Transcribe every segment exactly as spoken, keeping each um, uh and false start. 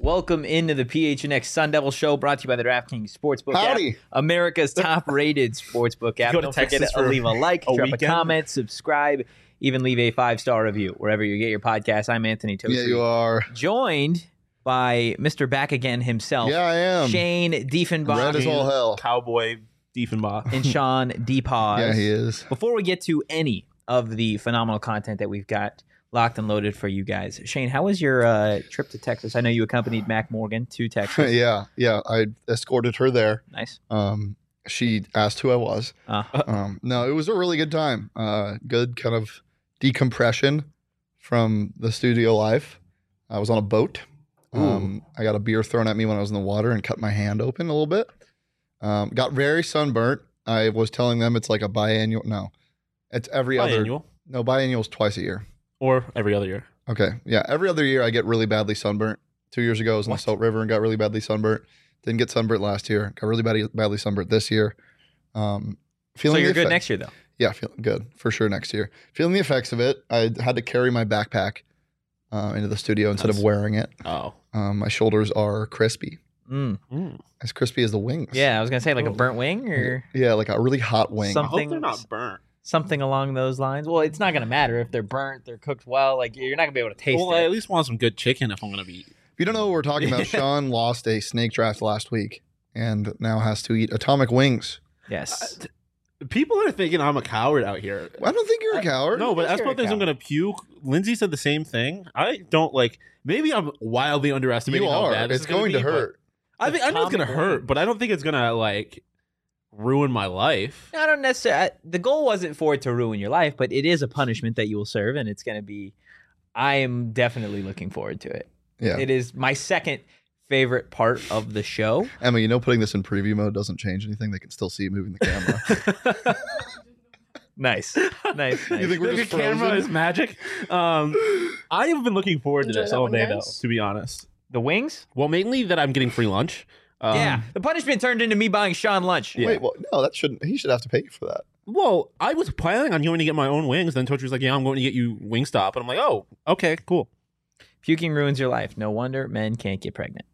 Welcome into the P H N X Sun Devil Show, brought to you by the DraftKings Sportsbook Howdy. app, America's top-rated sportsbook app. Go to Don't forget Texas to for leave a like, a drop a weekend. comment, subscribe, even leave a five-star review wherever you get your podcast. I'm Anthony Tosi. Yeah, you are. Joined by Mister Back Again himself, Yeah, I am. Shane Diefenbach, Red as all hell. Cowboy Diefenbach. and Sean DePaz. Yeah, he is. Before we get to any of the phenomenal content that we've got locked and loaded for you guys, Shane, how was your uh, trip to Texas? I know you accompanied Mac Morgan to Texas. yeah, yeah. I escorted her there. Nice. Um, she asked who I was. Uh, Um, no, it was a really good time. Uh, good kind of decompression from the studio life. I was on a boat. Um, I got a beer thrown at me when I was in the water and cut my hand open a little bit. Um, got very sunburnt. I was telling them it's like a biannual. No, it's every other. Biannual No, biannual is twice a year. or every other year. Okay. Yeah. Every other year I get really badly sunburnt. Two years ago I was in What? the Salt River and got really badly sunburnt. Didn't get sunburnt last year. Got really badly, badly sunburnt this year. Um, so feeling you're the good effect- next year, though. Yeah, feeling good for sure next year. Feeling the effects of it. I had to carry my backpack uh, into the studio instead of Nice. wearing it. Oh. Um, my shoulders are crispy, Mm. Mm. as crispy as the wings. Yeah, I was gonna say like a Oh. burnt wing or Yeah, like a really hot wing. Some- I hope Something- they're not burnt. something along those lines. Well, it's not gonna matter if they're burnt, they're cooked well. Like you're not gonna be able to taste Well, I it. at least want some good chicken if I'm going to be. If you don't know what we're talking about, Sean lost a snake draft last week and now has to eat atomic wings. Yes. People are thinking I'm a coward out here. I don't think you're a coward. No, but Yes, as you're a people think I'm coward. going to puke. Lindsay said the same thing. I don't like. Maybe I'm wildly underestimating You how are. bad this It's is gonna going to be, but hurt. I think I know it's going to Atomic hurt, wing. but I don't think it's going to like ruin my life. I don't necessarily. The goal wasn't for it to ruin your life, but it is a punishment that you will serve, and it's gonna be. I am definitely looking forward to it. Yeah. It is my second favorite part of the show. Emma, you know putting this in preview mode doesn't change anything. They can still see you moving the camera. Nice, nice, nice. You think we're the just camera frozen? is magic. Um, I have been looking forward to Enjoy this that all one, day, guys. though. To be honest, The wings? well, mainly that I'm getting free lunch. Um, Yeah. The punishment turned into me buying Sean lunch. Yeah. Wait, well, no, that shouldn't. He should have to pay you for that. Well, I was planning on going to get my own wings. Then Tochi was like, "Yeah, I'm going to get you Wingstop," and I'm like, "Oh, okay, cool." Puking ruins your life. No wonder men can't get pregnant.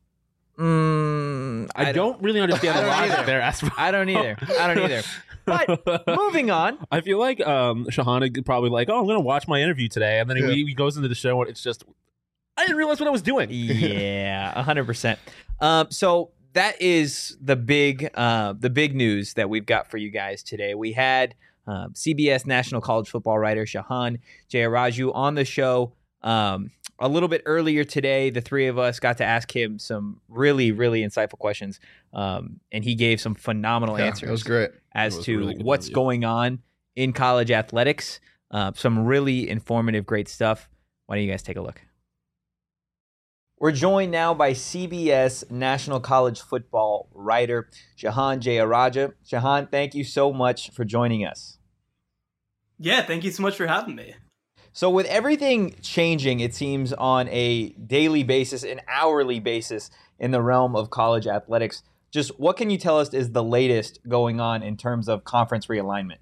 Mm, I, don't, really understand I the don't logic either. there. As I don't either. I don't either. But moving on. I feel like um, Shahana could probably like, "Oh, I'm going to watch my interview today," and then Yeah. he, he goes into the show and it's just, I didn't realize what I was doing. Yeah, one hundred percent. Um, so that is the big, uh, the big news that we've got for you guys today. We had um, C B S National College Football writer Shahan Jayaraju on the show um, a little bit earlier today. The three of us got to ask him some really, really insightful questions, um, and he gave some phenomenal Yeah, answers it was great. as It was to really good what's interview. going on in college athletics. Uh, some really informative, great stuff. Why don't you guys take a look? We're joined now by C B S National College Football writer Shahan Jayaraju. Shahan, thank you so much for joining us. Yeah, thank you so much for having me. So with everything changing, it seems, on a daily basis, an hourly basis in the realm of college athletics, just what can you tell us is the latest going on in terms of conference realignment?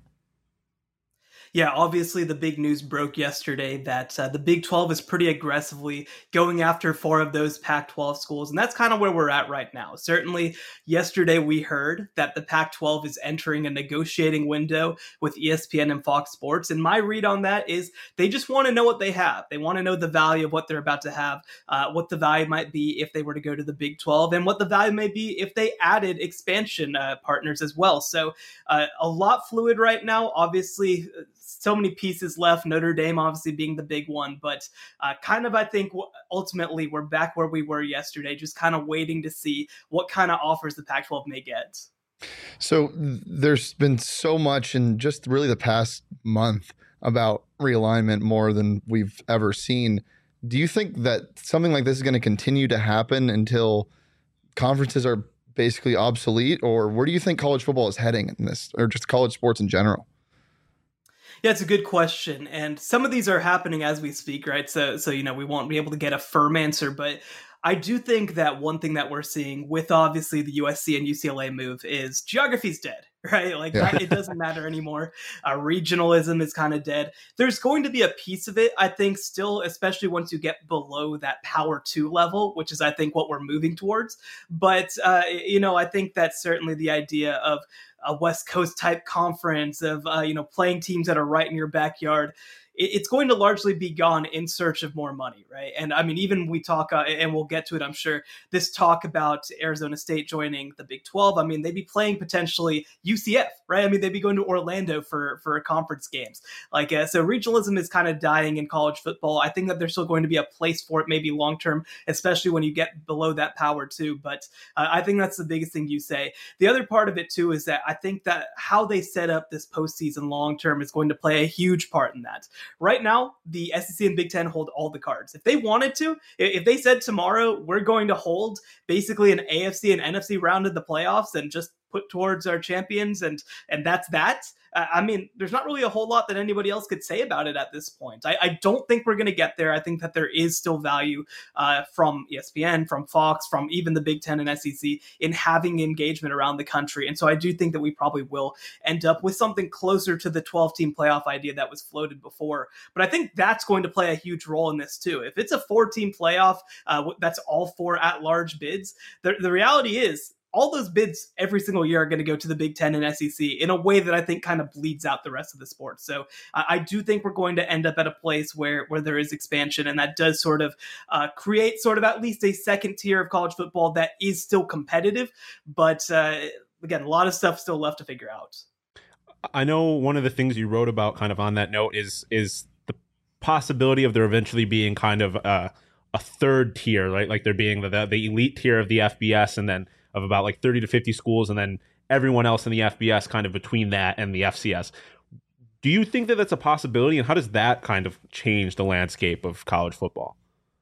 Yeah, obviously the big news broke yesterday that uh, the Big twelve is pretty aggressively going after four of those Pac twelve schools, and that's kind of where we're at right now. Certainly, yesterday we heard that the Pac twelve is entering a negotiating window with E S P N and Fox Sports, and my read on that is they just want to know what they have. They want to know the value of what they're about to have, uh, what the value might be if they were to go to the Big twelve, and what the value may be if they added expansion uh, partners as well. So uh, a lot fluid right now. Obviously, so many pieces left, Notre Dame obviously being the big one, but uh, kind of, I think, ultimately we're back where we were yesterday, just kind of waiting to see what kind of offers the Pac twelve may get. So th- there's been so much in just really the past month about realignment, more than we've ever seen. Do you think that something like this is going to continue to happen until conferences are basically obsolete, or where do you think college football is heading in this, or just college sports in general? Yeah, it's a good question. And some of these are happening as we speak, right? So, so you know, we won't be able to get a firm answer, but I do think that one thing that we're seeing with obviously the U S C and U C L A move is geography's dead. right? Like Yeah. that, it doesn't matter anymore. Uh, regionalism is kind of dead. There's going to be a piece of it, I think, still, especially once you get below that power two level, which is, I think, what we're moving towards. But, uh, you know, I think that's certainly the idea of a West Coast type conference of, uh, you know, playing teams that are right in your backyard. It's going to largely be gone in search of more money, right? And I mean, even we talk, uh, and we'll get to it, I'm sure, this talk about Arizona State joining the Big twelve. I mean, they'd be playing potentially U C F, right? I mean, they'd be going to Orlando for, for conference games. Like, uh, so regionalism is kind of dying in college football. I think that there's still going to be a place for it, maybe long-term, especially when you get below that power too. But uh, I think that's the biggest thing you say. The other part of it too is that I think that how they set up this postseason long-term is going to play a huge part in that. Right now, the S E C and Big Ten hold all the cards. If they wanted to, if they said tomorrow, we're going to hold basically an A F C and N F C round of the playoffs and just put towards our champions, and and that's that. Uh, I mean, there's not really a whole lot that anybody else could say about it at this point. I, I don't think we're going to get there. I think that there is still value uh, from E S P N, from Fox, from even the Big Ten and S E C in having engagement around the country. And so I do think that we probably will end up with something closer to the twelve-team playoff idea that was floated before. But I think that's going to play a huge role in this too. If it's a four-team playoff, uh, that's all four at-large bids, the, the reality is, all those bids every single year are going to go to the Big Ten and S E C in a way that I think kind of bleeds out the rest of the sport. So uh, I do think we're going to end up at a place where, where there is expansion, and that does sort of uh, create sort of at least a second tier of college football that is still competitive. But uh, again, a lot of stuff still left to figure out. I know one of the things you wrote about kind of on that note is, is the possibility of there eventually being kind of a, a third tier, right? Like there being the, the elite tier of the F B S, and then of about like thirty to fifty schools, and then everyone else in the F B S kind of between that and the F C S. Do you think that that's a possibility, and how does that kind of change the landscape of college football?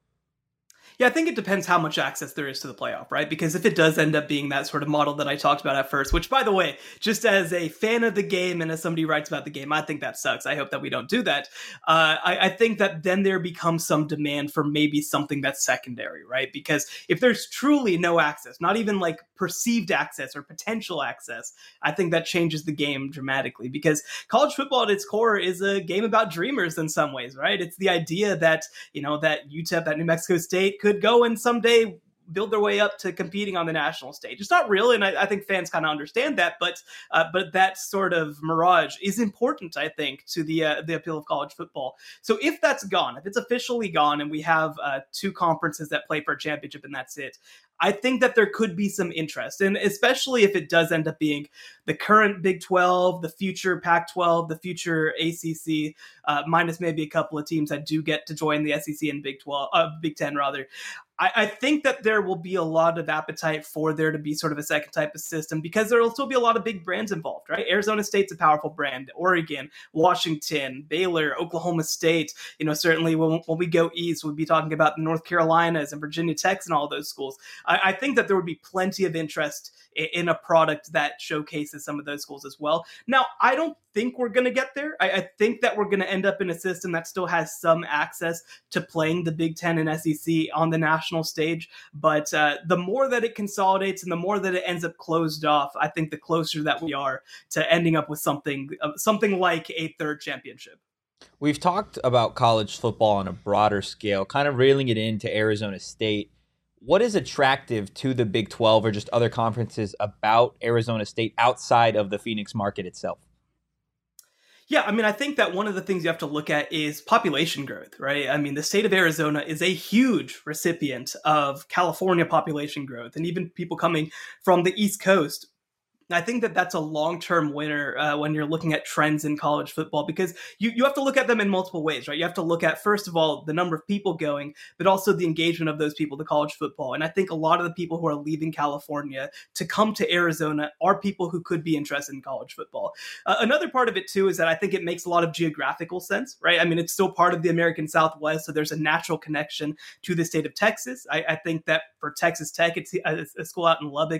Yeah, I think it depends how much access there is to the playoff, right? Because if it does end up being that sort of model that I talked about at first, which, by the way, just as a fan of the game and as somebody who writes about the game, I think that sucks. I hope that we don't do that. Uh, I, I think that then there becomes some demand for maybe something that's secondary, right? Because if there's truly no access, not even like perceived access or potential access, I think that changes the game dramatically, because college football at its core is a game about dreamers in some ways, right? It's the idea that, you know, that U T E P, that New Mexico State could go and someday build their way up to competing on the national stage. It's not real, and I, I think fans kind of understand that, but uh, but that sort of mirage is important, I think, to the uh, the appeal of college football. So if that's gone, if it's officially gone, and we have uh, two conferences that play for a championship and that's it, I think that there could be some interest, and especially if it does end up being the current Big twelve, the future Pac twelve, the future A C C, uh, minus maybe a couple of teams that do get to join the S E C and Big twelve, uh, Big ten rather. I, I think that there will be a lot of appetite for there to be sort of a second type of system, because there will still be a lot of big brands involved, right? Arizona State's a powerful brand. Oregon, Washington, Baylor, Oklahoma State. You know, certainly when, when we go east, we'll be talking about the North Carolinas and Virginia Techs and all those schools. I, I think that there would be plenty of interest in, in a product that showcases some of those schools as well. Now, I don't think we're going to get there. I, I think that we're going to end up in a system that still has some access to playing the Big Ten and S E C on the national stage. But uh, the more that it consolidates and the more that it ends up closed off, I think the closer that we are to ending up with something, uh, something like a third championship. We've talked about college football on a broader scale, kind of reeling it into Arizona State. What is attractive to the Big twelve or just other conferences about Arizona State outside of the Phoenix market itself? Yeah, I mean, I think that one of the things you have to look at is population growth, right? I mean, the state of Arizona is a huge recipient of California population growth, and even people coming from the East Coast. I think that that's a long-term winner uh, when you're looking at trends in college football, because you, you have to look at them in multiple ways, right? You have to look at, first of all, the number of people going, but also the engagement of those people to college football. And I think a lot of the people who are leaving California to come to Arizona are people who could be interested in college football. Uh, another part of it, too, is that I think it makes a lot of geographical sense, right? I mean, it's still part of the American Southwest, so there's a natural connection to the state of Texas. I, I think that for Texas Tech, it's a, a school out in Lubbock.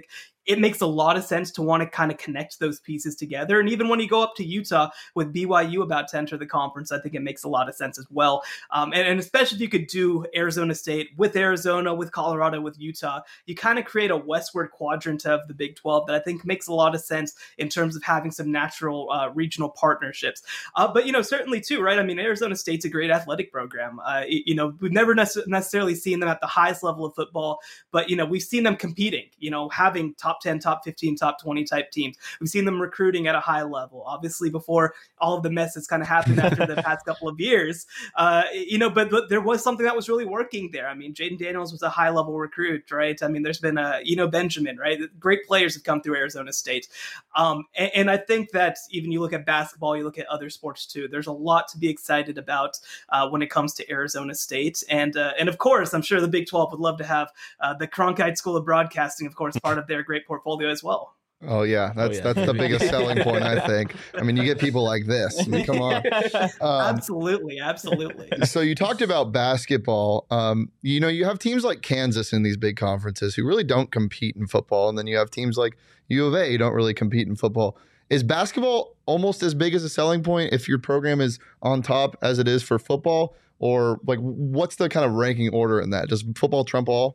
it makes a lot of sense to want to kind of connect those pieces together. And even when you go up to Utah with B Y U about to enter the conference, I think it makes a lot of sense as well. Um, and, and especially if you could do Arizona State with Arizona, with Colorado, with Utah, you kind of create a westward quadrant of the Big twelve that I think makes a lot of sense in terms of having some natural uh, regional partnerships. Uh, but, you know, certainly too, right? I mean, Arizona State's a great athletic program. Uh, you know, we've never nece- necessarily seen them at the highest level of football, but, you know, we've seen them competing, you know, having top ten, top fifteen, top twenty type teams. We've seen them recruiting at a high level, obviously before all of the mess that's kind of happened after the past couple of years, uh, you know, but, but there was something that was really working there. I mean, Jaden Daniels was a high level recruit, right? I mean, there's been a, you know, Benjamin, right? Great players have come through Arizona State. Um, and, and I think that even you look at basketball, you look at other sports too, there's a lot to be excited about uh, when it comes to Arizona State. And, uh, and of course, I'm sure the Big twelve would love to have uh, the Cronkite School of Broadcasting, of course, part of their great portfolio as well. Oh yeah, that's oh, yeah. that's the biggest selling point, I think. I mean, you get people like this. I mean, come on. Um, absolutely, absolutely. So you talked about basketball. Um, you know, you have teams like Kansas in these big conferences who really don't compete in football, and then you have teams like U of A who don't really compete in football. Is basketball almost as big as a selling point if your program is on top as it is for football, or like what's the kind of ranking order in that? Does football trump all?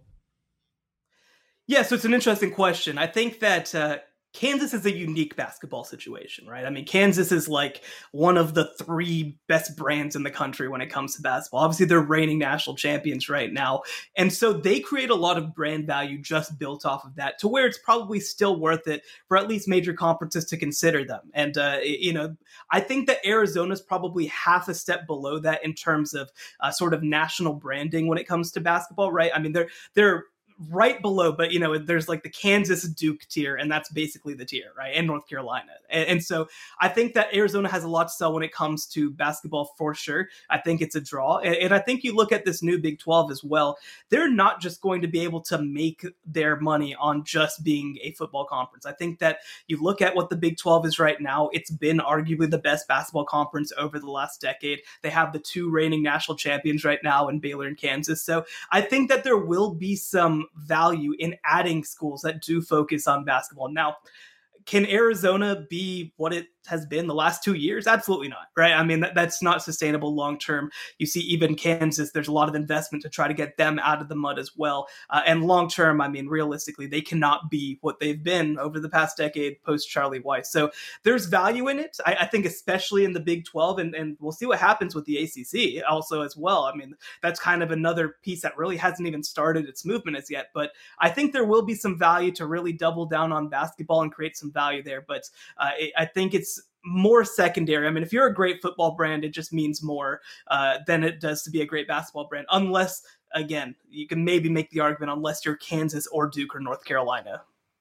Yeah, so it's an interesting question. I think that uh, Kansas is a unique basketball situation, right? I mean, Kansas is like one of the three best brands in the country when it comes to basketball. Obviously, they're reigning national champions right now. And so they create a lot of brand value just built off of that to where it's probably still worth it for at least major conferences to consider them. And, uh, you know, I think that Arizona's probably half a step below that in terms of uh, sort of national branding when it comes to basketball, right? I mean, they're they're right below, but you know, there's like the Kansas Duke tier, and that's basically the tier, right? And North Carolina. And, and so I think that Arizona has a lot to sell when it comes to basketball for sure. I think it's a draw. And, and I think you look at this new Big twelve as well. They're not just going to be able to make their money on just being a football conference. I think that you look at what the Big twelve is right now, it's been arguably the best basketball conference over the last decade. They have the two reigning national champions right now in Baylor and Kansas. So I think that there will be some value in adding schools that do focus on basketball. Now, can Arizona be what it has been the last two years? Absolutely not, right? I mean, that, that's not sustainable long-term. You see, even Kansas, there's a lot of investment to try to get them out of the mud as well. Uh, and long-term, I mean, realistically, they cannot be what they've been over the past decade post-Charlie Weiss. So there's value in it, I, I think, especially in the Big twelve, and, and we'll see what happens with the A C C also as well. I mean, that's kind of another piece that really hasn't even started its movement as yet. But I think there will be some value to really double down on basketball and create some value there. But uh, it, I think it's more secondary. I mean, if you're a great football brand, it just means more uh, than it does to be a great basketball brand. Unless, again, you can maybe make the argument unless you're Kansas or Duke or North Carolina.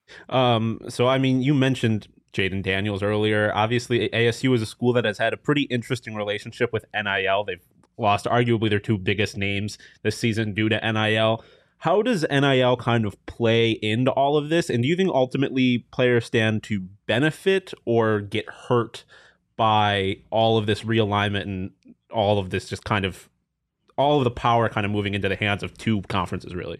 Um, so, I mean, you mentioned Jaden Daniels earlier. Obviously, A S U is a school that has had a pretty interesting relationship with N I L. They've lost arguably their two biggest names this season due to N I L. How does N I L kind of play into all of this? And do you think ultimately players stand to benefit or get hurt by all of this realignment and all of this just kind of all of the power kind of moving into the hands of two conferences, really?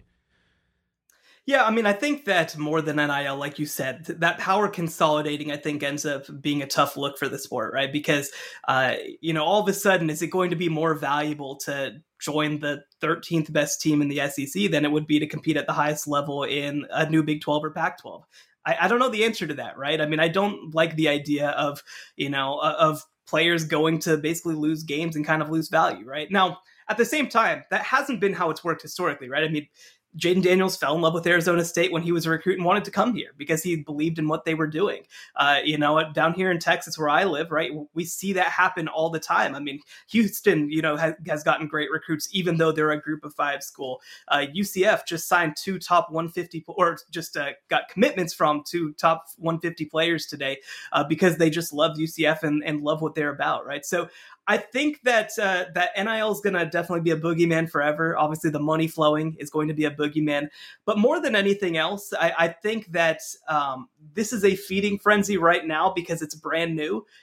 Yeah, I mean, I think that more than N I L, like you said, that power consolidating, I think, ends up being a tough look for the sport, right? Because, uh, you know, all of a sudden, is it going to be more valuable to join the thirteenth best team in the S E C than it would be to compete at the highest level in a new Big twelve or Pac twelve? I, I don't know the answer to that, right? I mean, I don't like the idea of, you know, of players going to basically lose games and kind of lose value, right? Now, at the same time, that hasn't been how it's worked historically, right? I mean, Jaden Daniels fell in love with Arizona State when he was a recruit and wanted to come here because he believed in what they were doing. Uh, you know, down here in Texas where I live, right, we see that happen all the time. I mean, Houston, you know, has, has gotten great recruits, even though they're a group of five school. Uh, U C F just signed two top one fifty, or just uh, got commitments from two top one fifty players today uh, because they just love U C F and, and love what they're about, right? So I think that uh, that N I L is going to definitely be a boogeyman forever. Obviously, the money flowing is going to be a boogeyman. But more than anything else, I, I think that um, this is a feeding frenzy right now because it's brand new.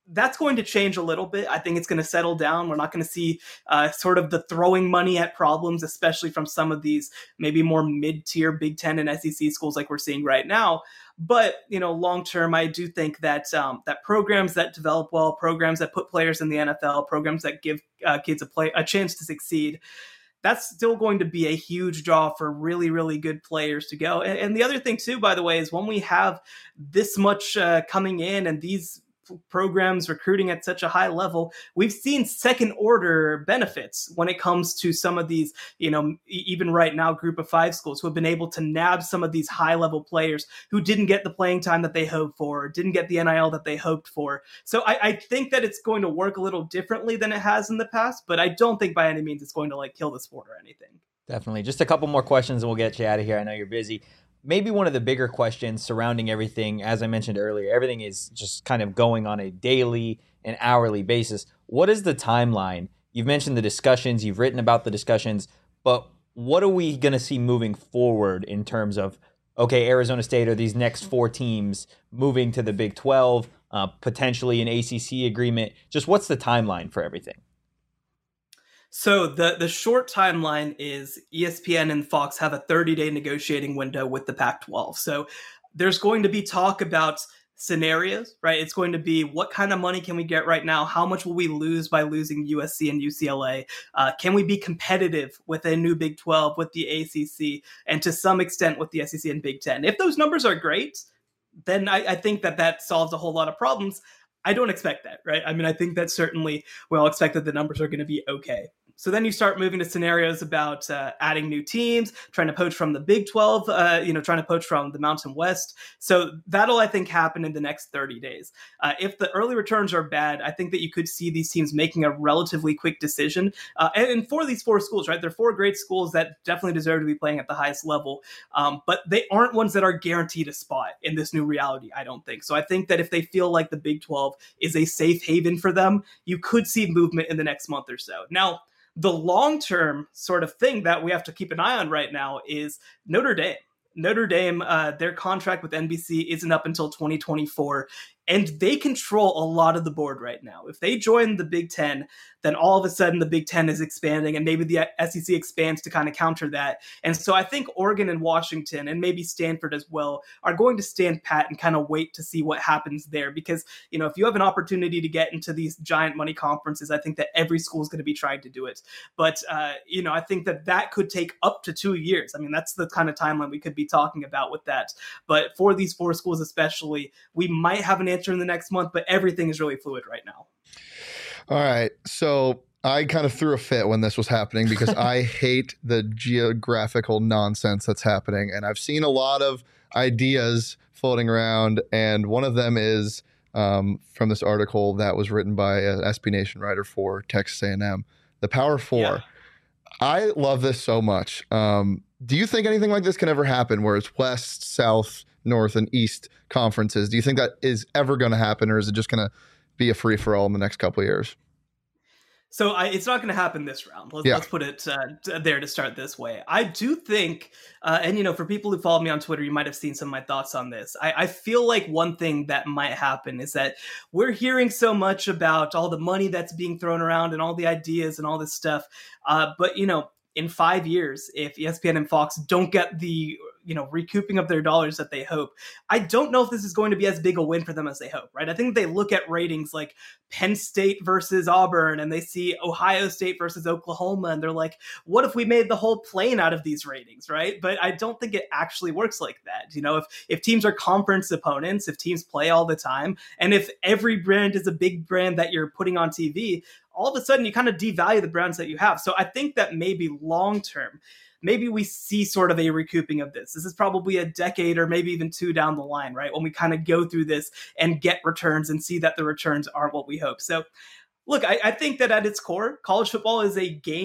that's going to change a little bit. I think it's going to settle down. We're not going to see uh, sort of the throwing money at problems, especially from some of these maybe more mid-tier Big Ten and S E C schools like we're seeing right now. But, you know, long term, I do think that um, that programs that develop well, programs that put players in the N F L, programs that give uh, kids a play a chance to succeed, that's still going to be a huge draw for really, really good players to go. And, and the other thing, too, by the way, is when we have this much uh, coming in and these programs recruiting at such a high level, we've seen second order benefits when it comes to some of these, you know, even right now, group of five schools who have been able to nab some of these high level players who didn't get the playing time that they hoped for, didn't get the N I L that they hoped for. So I, I think that it's going to work a little differently than it has in the past, but I don't think by any means it's going to like kill the sport or anything. Definitely. Just a couple more questions and we'll get you out of here. I know you're busy. Maybe one of the bigger questions surrounding everything, as I mentioned earlier, everything is just kind of going on a daily and hourly basis. What is the timeline? You've mentioned the discussions, you've written about the discussions, but what are we going to see moving forward in terms of, okay, Arizona State or these next four teams moving to the Big twelve, uh, potentially an A C C agreement? Just what's the timeline for everything? So the, the short timeline is E S P N and Fox have a thirty-day negotiating window with the Pac twelve. So there's going to be talk about scenarios, right? It's going to be what kind of money can we get right now? How much will we lose by losing U S C and U C L A? Uh, can we be competitive with a new Big twelve, with the A C C, and to some extent with the S E C and Big Ten? If those numbers are great, then I, I think that that solves a whole lot of problems. I don't expect that, right? I mean, I think that certainly we all expect that the numbers are going to be okay. So then you start moving to scenarios about uh, adding new teams, trying to poach from the Big twelve, uh, you know, trying to poach from the Mountain West. So that'll, I think, happen in the next thirty days. Uh, if the early returns are bad, I think that you could see these teams making a relatively quick decision. Uh, and, and for these four schools, right, they're four great schools that definitely deserve to be playing at the highest level. Um, but they aren't ones that are guaranteed a spot in this new reality, I don't think. So I think that if they feel like the Big twelve is a safe haven for them, you could see movement in the next month or so. Now, the long-term sort of thing that we have to keep an eye on right now is Notre Dame. Notre Dame, uh, their contract with N B C isn't up until twenty twenty-four, and they control a lot of the board right now. If they join the Big Ten, then all of a sudden the Big Ten is expanding, and maybe the S E C expands to kind of counter that. And so I think Oregon and Washington, and maybe Stanford as well, are going to stand pat and kind of wait to see what happens there. Because, you know, if you have an opportunity to get into these giant money conferences, I think that every school is going to be trying to do it. But, uh, you know, I think that that could take up to two years. I mean, that's the kind of timeline we could be talking about with that. But for these four schools especially, we might have an answer in the next month, but everything is really fluid right now. All right. So I kind of threw a fit when this was happening because I hate the geographical nonsense that's happening. And I've seen a lot of ideas floating around. And one of them is um, from this article that was written by an S B Nation writer for Texas A and M, the Power Four. Yeah. I love this so much. Um, do you think anything like this can ever happen where it's West, South, North, and East conferences? Do you think that is ever going to happen, or is it just going to be a free-for-all in the next couple of years? So I, it's not going to happen this round. Let's, yeah. let's put it uh, there to start this way. I do think, uh, and you know, for people who follow me on Twitter, you might have seen some of my thoughts on this. I, I feel like one thing that might happen is that we're hearing so much about all the money that's being thrown around and all the ideas and all this stuff. Uh, but, you know, in five years, if E S P N and Fox don't get the, you know, recouping of their dollars that they hope, I don't know if this is going to be as big a win for them as they hope, right? I think they look at ratings like Penn State versus Auburn, and they see Ohio State versus Oklahoma, and they're like, what if we made the whole plane out of these ratings, right? But I don't think it actually works like that. You know, if, if teams are conference opponents, if teams play all the time, and if every brand is a big brand that you're putting on T V, all of a sudden you kind of devalue the brands that you have. So I think that maybe long-term, maybe we see sort of a recouping of this. This is probably a decade or maybe even two down the line, right? When we kind of go through this and get returns and see that the returns aren't what we hope. So look, I, I think that at its core, college football is a game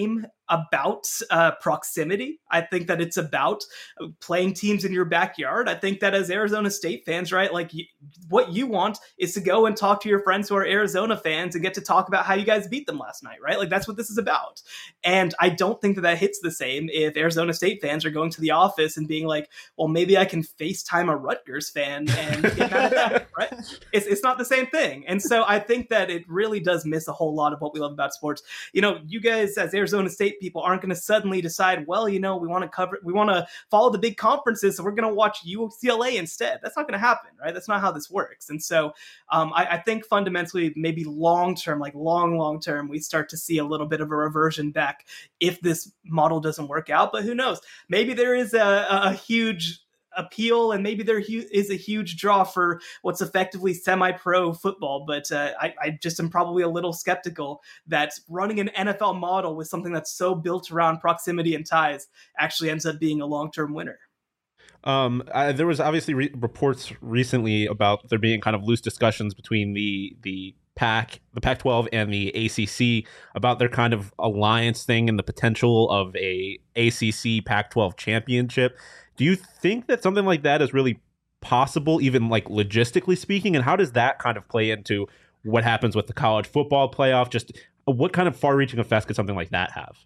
about uh, proximity. I think that it's about playing teams in your backyard. I think that as Arizona State fans, right, like you, what you want is to go and talk to your friends who are Arizona fans and get to talk about how you guys beat them last night, right? Like that's what this is about. And I don't think that that hits the same if Arizona State fans are going to the office and being like, well, maybe I can FaceTime a Rutgers fan and get mad at that, right? It's, it's not the same thing. And so I think that it really does miss a whole lot of what we love about sports. You know, you guys as Arizona State people aren't going to suddenly decide, well, you know, we want to cover, we want to follow the big conferences, so we're going to watch U C L A instead. That's not going to happen, right? That's not how this works. And so um, I, I think fundamentally, maybe long term, like long, long term, we start to see a little bit of a reversion back if this model doesn't work out. But who knows? Maybe there is a, a huge appeal, and maybe there hu- is a huge draw for what's effectively semi-pro football, but uh, I, I just am probably a little skeptical that running an N F L model with something that's so built around proximity and ties actually ends up being a long-term winner. Um, I, there was obviously re- reports recently about there being kind of loose discussions between the the Pac, the Pac twelve and the A C C about their kind of alliance thing and the potential of a A C C Pac twelve championship. Do you think that something like that is really possible, even like logistically speaking? And how does that kind of play into what happens with the college football playoff? Just what kind of far-reaching effects could something like that have?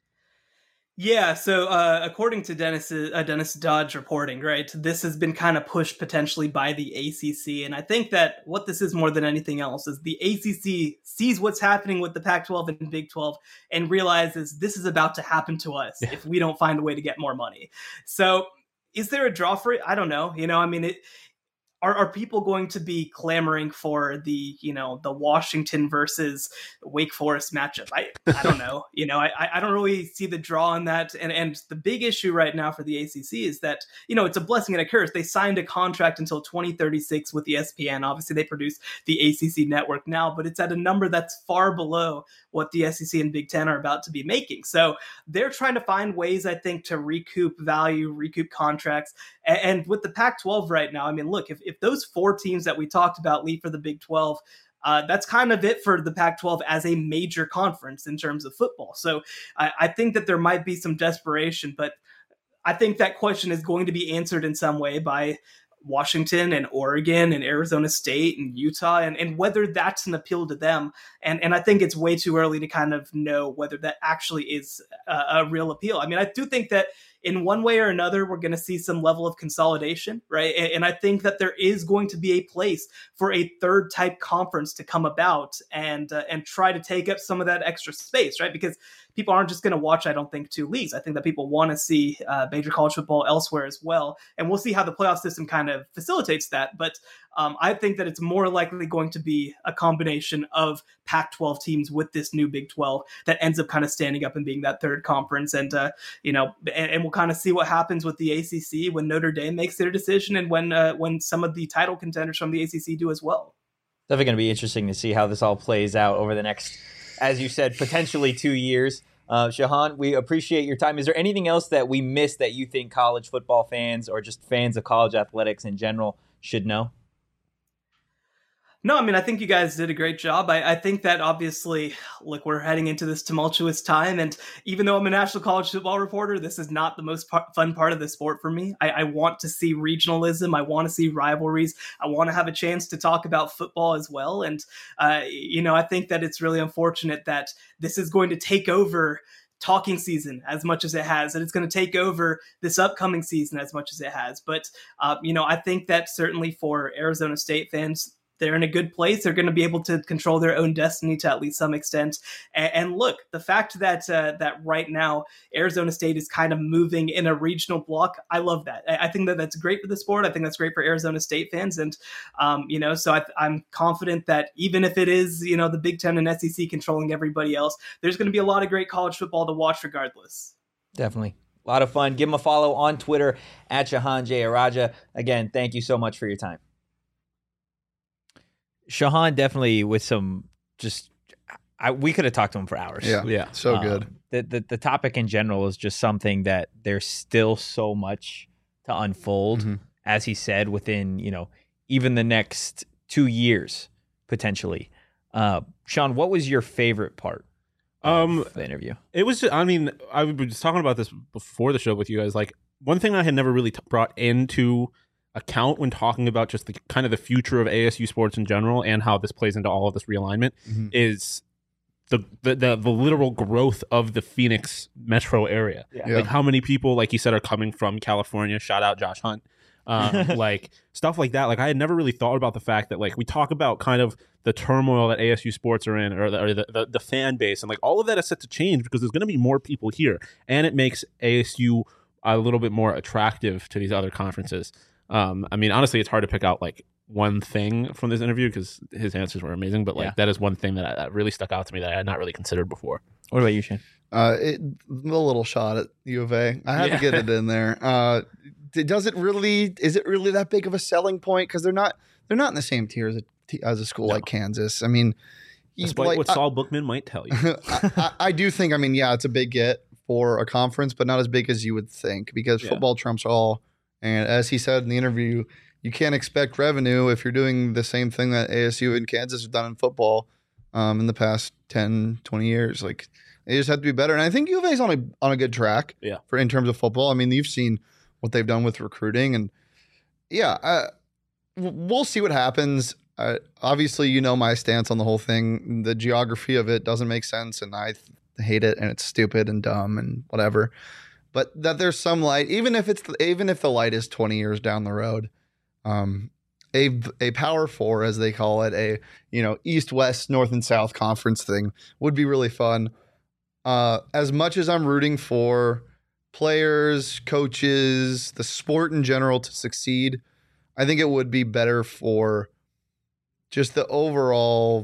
Yeah, so uh, according to Dennis uh, Dennis Dodge reporting, right, this has been kind of pushed potentially by the A C C. And I think that what this is more than anything else is the A C C sees what's happening with the Pac twelve and Big twelve and realizes this is about to happen to us yeah. if we don't find a way to get more money. So is there a draw for it? I don't know. You know, I mean, it. Are, are people going to be clamoring for the, you know, the Washington versus Wake Forest matchup? I, I don't know. You know, I, I don't really see the draw in that. And, and the big issue right now for the A C C is that, you know, it's a blessing and a curse. They signed a contract until twenty thirty-six with E S P N. Obviously, they produce the A C C network now, but it's at a number that's far below what the S E C and Big Ten are about to be making. So they're trying to find ways, I think, to recoup value, recoup contracts. And, and with the Pac twelve right now, I mean, look, if, if those four teams that we talked about leave for the Big twelve, uh, that's kind of it for the Pac twelve as a major conference in terms of football. So I, I think that there might be some desperation, but I think that question is going to be answered in some way by Washington and Oregon and Arizona State and Utah, and, and whether that's an appeal to them. And, and I think it's way too early to kind of know whether that actually is a, a real appeal. I mean, I do think that in one way or another, we're going to see some level of consolidation, right? And, and I think that there is going to be a place for a third type conference to come about and uh, and try to take up some of that extra space, right? Because people aren't just going to watch, I don't think, two leagues. I think that people want to see uh, major college football elsewhere as well. And we'll see how the playoff system kind of facilitates that. But um, I think that it's more likely going to be a combination of Pac twelve teams with this new Big twelve that ends up kind of standing up and being that third conference. And, uh, you know, and, and we'll kind of see what happens with the A C C when Notre Dame makes their decision and when uh, when some of the title contenders from the A C C do as well. Definitely going to be interesting to see how this all plays out over the next, as you said, potentially two years. Uh, Shahan, we appreciate your time. Is there anything else that we missed that you think college football fans or just fans of college athletics in general should know? No, I mean, I think you guys did a great job. I, I think that obviously, look, we're heading into this tumultuous time. And even though I'm a national college football reporter, this is not the most par- fun part of the sport for me. I, I want to see regionalism. I want to see rivalries. I want to have a chance to talk about football as well. And, uh, you know, I think that it's really unfortunate that this is going to take over talking season as much as it has, and it's going to take over this upcoming season as much as it has. But, uh, you know, I think that certainly for Arizona State fans, they're in a good place. They're going to be able to control their own destiny to at least some extent. And, and look, the fact that uh, that right now Arizona State is kind of moving in a regional block, I love that. I, I think that that's great for the sport. I think that's great for Arizona State fans. And, um, you know, so I, I'm confident that even if it is, you know, the Big Ten and S E C controlling everybody else, there's going to be a lot of great college football to watch regardless. Definitely. A lot of fun. Give him a follow on Twitter at Shahan Jeyarajah. Again, thank you so much for your time. Shahan definitely with some just I, we could have talked to him for hours. Yeah, yeah, so um, good. The, the the topic in general is just something that there's still so much to unfold, mm-hmm. as he said, within, you know, even the next two years potentially. Uh, Sean, what was your favorite part Um, the interview. It was. I mean, I was just talking about this before the show with you guys. Like, one thing I had never really t- brought into account when talking about just the kind of the future of A S U sports in general and how this plays into all of this realignment Mm-hmm. is the, the the the literal growth of the Phoenix metro area. Yeah. Yeah. Like how many people, like you said, are coming from California. Shout out Josh Hunt. Um, like stuff like that. Like I had never really thought about the fact that like we talk about kind of the turmoil that A S U sports are in, or the, or the, the, the fan base, and like all of that is set to change because there's going to be more people here, and it makes A S U a little bit more attractive to these other conferences. Um, I mean, honestly, it's hard to pick out like one thing from this interview because his answers were amazing, but like Yeah. that is one thing that, that really stuck out to me that I had not really considered before. What about you, Shane? Uh, it, the little shot at U of A. I had Yeah. to get it in there. Uh, d- does it really? Is it really that big of a selling point? Because they're not. They're not in the same tier as a t- as a school No. like Kansas. I mean, you- Despite like, what I- Saul Bookman might tell you. I, I, I do think. I mean, yeah, it's a big get for a conference, but not as big as you would think because Yeah. football trumps all. And as he said in the interview, you can't expect revenue if you're doing the same thing that A S U and Kansas have done in football um, in the past ten, twenty years. Like they just have to be better. And I think U of A is on a on a good track. Yeah. For in terms of football. I mean, you've seen what they've done with recruiting, and yeah, uh, w- we'll see what happens. Uh, obviously, you know my stance on the whole thing. The geography of it doesn't make sense, and I th- hate it, and it's stupid and dumb and whatever. But that there's some light, even if it's even if the light is twenty years down the road. Um, a a Power Four, as they call it, a you know East, West, North, and South conference thing would be really fun. Uh, as much as I'm rooting for players, coaches, the sport in general to succeed, I think it would be better for just the overall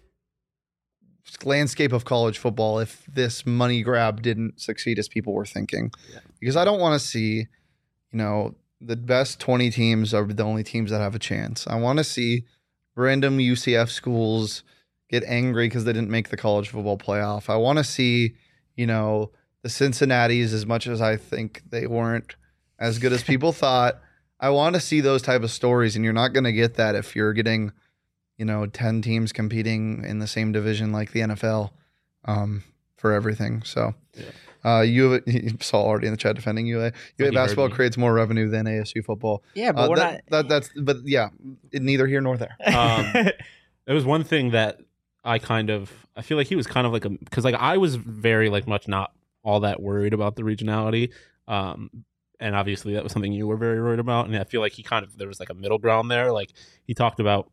landscape of college football if this money grab didn't succeed as people were thinking. Yeah. Because I don't want to see, you know, the best twenty teams are the only teams that have a chance. I want to see random U C F schools get angry because they didn't make the college football playoff. I want to see, you know, the Cincinnatis, as much as I think they weren't as good as people thought. I want to see those type of stories, and you're not going to get that if you're getting, you know, ten teams competing in the same division like the N F L um, for everything. So, Yeah. uh, U of A, you saw already in the chat defending U of A. U of A Like you basketball heard me. creates more revenue than A S U football. Yeah, but Uh, we're that, that, that's, but yeah, neither here nor there. Um, There was one thing that I kind of I feel like he was kind of like a because like I was very like much not all that worried about the regionality, um, and obviously that was something you were very worried about, and I feel like he kind of there was like a middle ground there. Like he talked about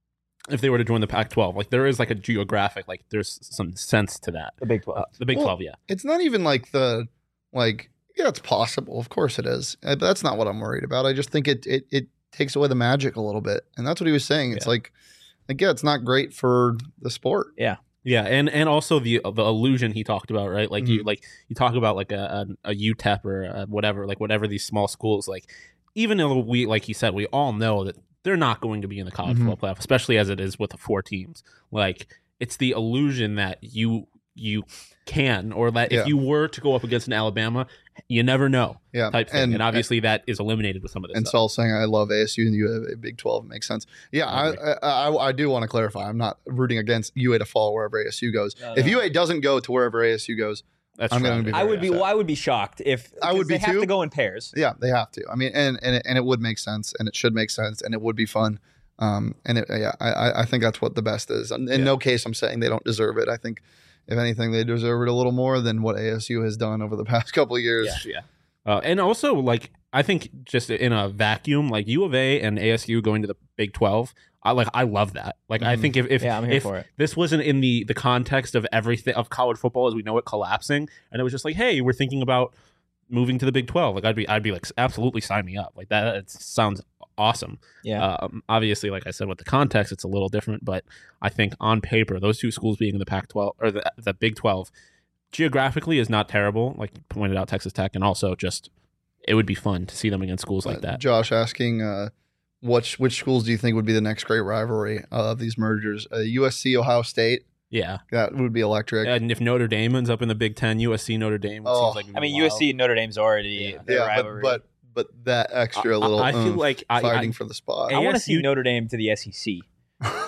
if they were to join the Pac twelve, like there is like a geographic like there's some sense to that. the Big twelve. Uh, the Big Well, twelve, yeah, It's not even like the, like, yeah, it's possible. Of course it is. Uh, But that's not what I'm worried about. I just think it, it, it takes away the magic a little bit. And that's what he was saying. It's Yeah. like, like, yeah, it's not great for the sport. yeah, and and also the the illusion he talked about, right? Like you Mhm. like you talk about like a a, a U T E P or a whatever, like whatever these small schools like. Even though we, like you said, we all know that they're not going to be in the college Mhm. football playoff, especially as it is with the four teams. Like it's the illusion that you you can, or that Yeah. if you were to go up against an Alabama, you never know Yeah. type thing. And, And, obviously that is eliminated with some of this and stuff. Saul saying, I love A S U and U of A Big twelve makes sense. Yeah, I I, agree. I, I, I do want to clarify. I'm not rooting against U A to fall wherever A S U goes. No, If no. U A doesn't go to wherever A S U goes, That's I'm true. gonna be I very would be. upset. Well, I would be shocked if I would 'cause be they have too. to go in pairs. yeah, they have to. I mean, and and it, and it would make sense, and it should make sense, and it would be fun. Um, and it, yeah, I I- I think that's what the best is. In Yeah. no case I'm saying they don't deserve it. I think if anything, they deserve it a little more than what A S U has done over the past couple of years. Yeah, yeah. Uh, and also, like, I think just in a vacuum, like U of A and A S U going to the Big twelve, I like, I love that. Like, I Mhm. think if if, Yeah, I'm here if for it. this wasn't in the the context of everything of college football as we know it collapsing, and it was just like, hey, we're thinking about moving to the Big twelve, like I'd be I'd be like, absolutely sign me up. Like that, it sounds awesome. Yeah. Um, obviously, like I said, with the context, it's a little different, but I think on paper, those two schools being in the Pac twelve or the, the Big twelve, geographically is not terrible. Like you pointed out, Texas Tech, and also just it would be fun to see them against schools like Uh, that. Josh asking, uh, which which schools do you think would be the next great rivalry of these mergers? Uh, U S C, Ohio State, Yeah, that would be electric. and if Notre Dame ends up in the Big Ten, U S C Notre Dame, it Oh. seems like it'd I be mean, wild. U S C and Notre Dame's already Yeah. their yeah, rivalry. but, but but that extra I- little I feel oomph like I- fighting I- for the spot. I want to see A S U Notre Dame to the S E C.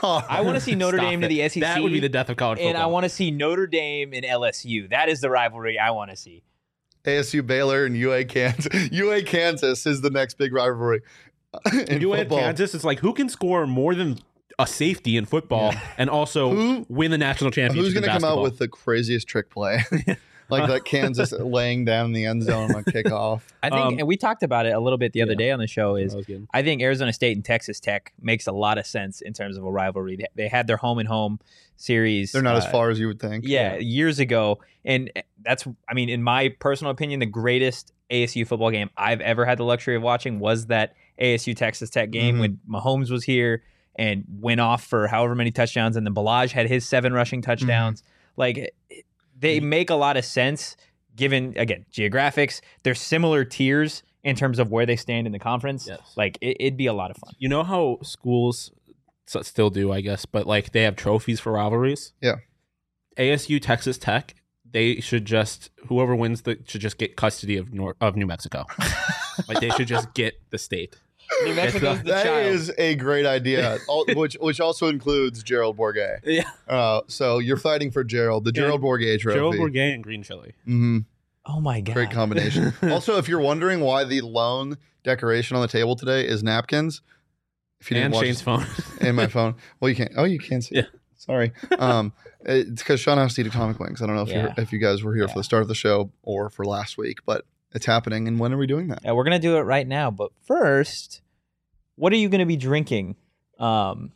are. I want to see Notre Stop Dame it. to the S E C. That would be the death of college football. And I want to see Notre Dame and L S U. That is the rivalry I want to see. A S U Baylor and U A Kansas. U A Kansas is the next big rivalry. In U A football. Kansas, it's like who can score more than a safety in football and also Who- win the national championship. Who's going to come out with the craziest trick play? Like that Kansas laying down in the end zone on kickoff. I think, Um, and we talked about it a little bit the other yeah. day on the show, is That was good. I think Arizona State and Texas Tech makes a lot of sense in terms of a rivalry. They, they had their home and home series. They're not uh, as far as you would think. Yeah, years ago. And that's, I mean, in my personal opinion, the greatest A S U football game I've ever had the luxury of watching was that A S U Texas Tech game Mhm. when Mahomes was here and went off for however many touchdowns, and then Balaj had his seven rushing touchdowns. Like, they make a lot of sense given, again, geographics. They're similar tiers in terms of where they stand in the conference. Yes. Like, it, it'd be a lot of fun. You know how schools s- still do, I guess, but like they have trophies for rivalries. Yeah. A S U, Texas Tech, they should just whoever wins the should just get custody of Nor- of New Mexico. Like they should just get the state. New Mexico's the That child. is a great idea, Al- which which also includes Gerald Bourguet. Yeah, Uh, so you're fighting for Gerald, the Gerald Bourguet trophy. Gerald Bourguet and green chili. hmm Oh, my God. Great combination. Also, if you're wondering why the lone decoration on the table today is napkins, if you didn't And watch Shane's phone. in my phone, well, you can't. Oh, you can see. Yeah. It. Sorry. Um, it's because Sean has to eat atomic wings. I don't know if Yeah. you if you guys were here Yeah. for the start of the show or for last week, but it's happening. And when are we doing that? Yeah, we're gonna do it right now. But first, what are you gonna be drinking um,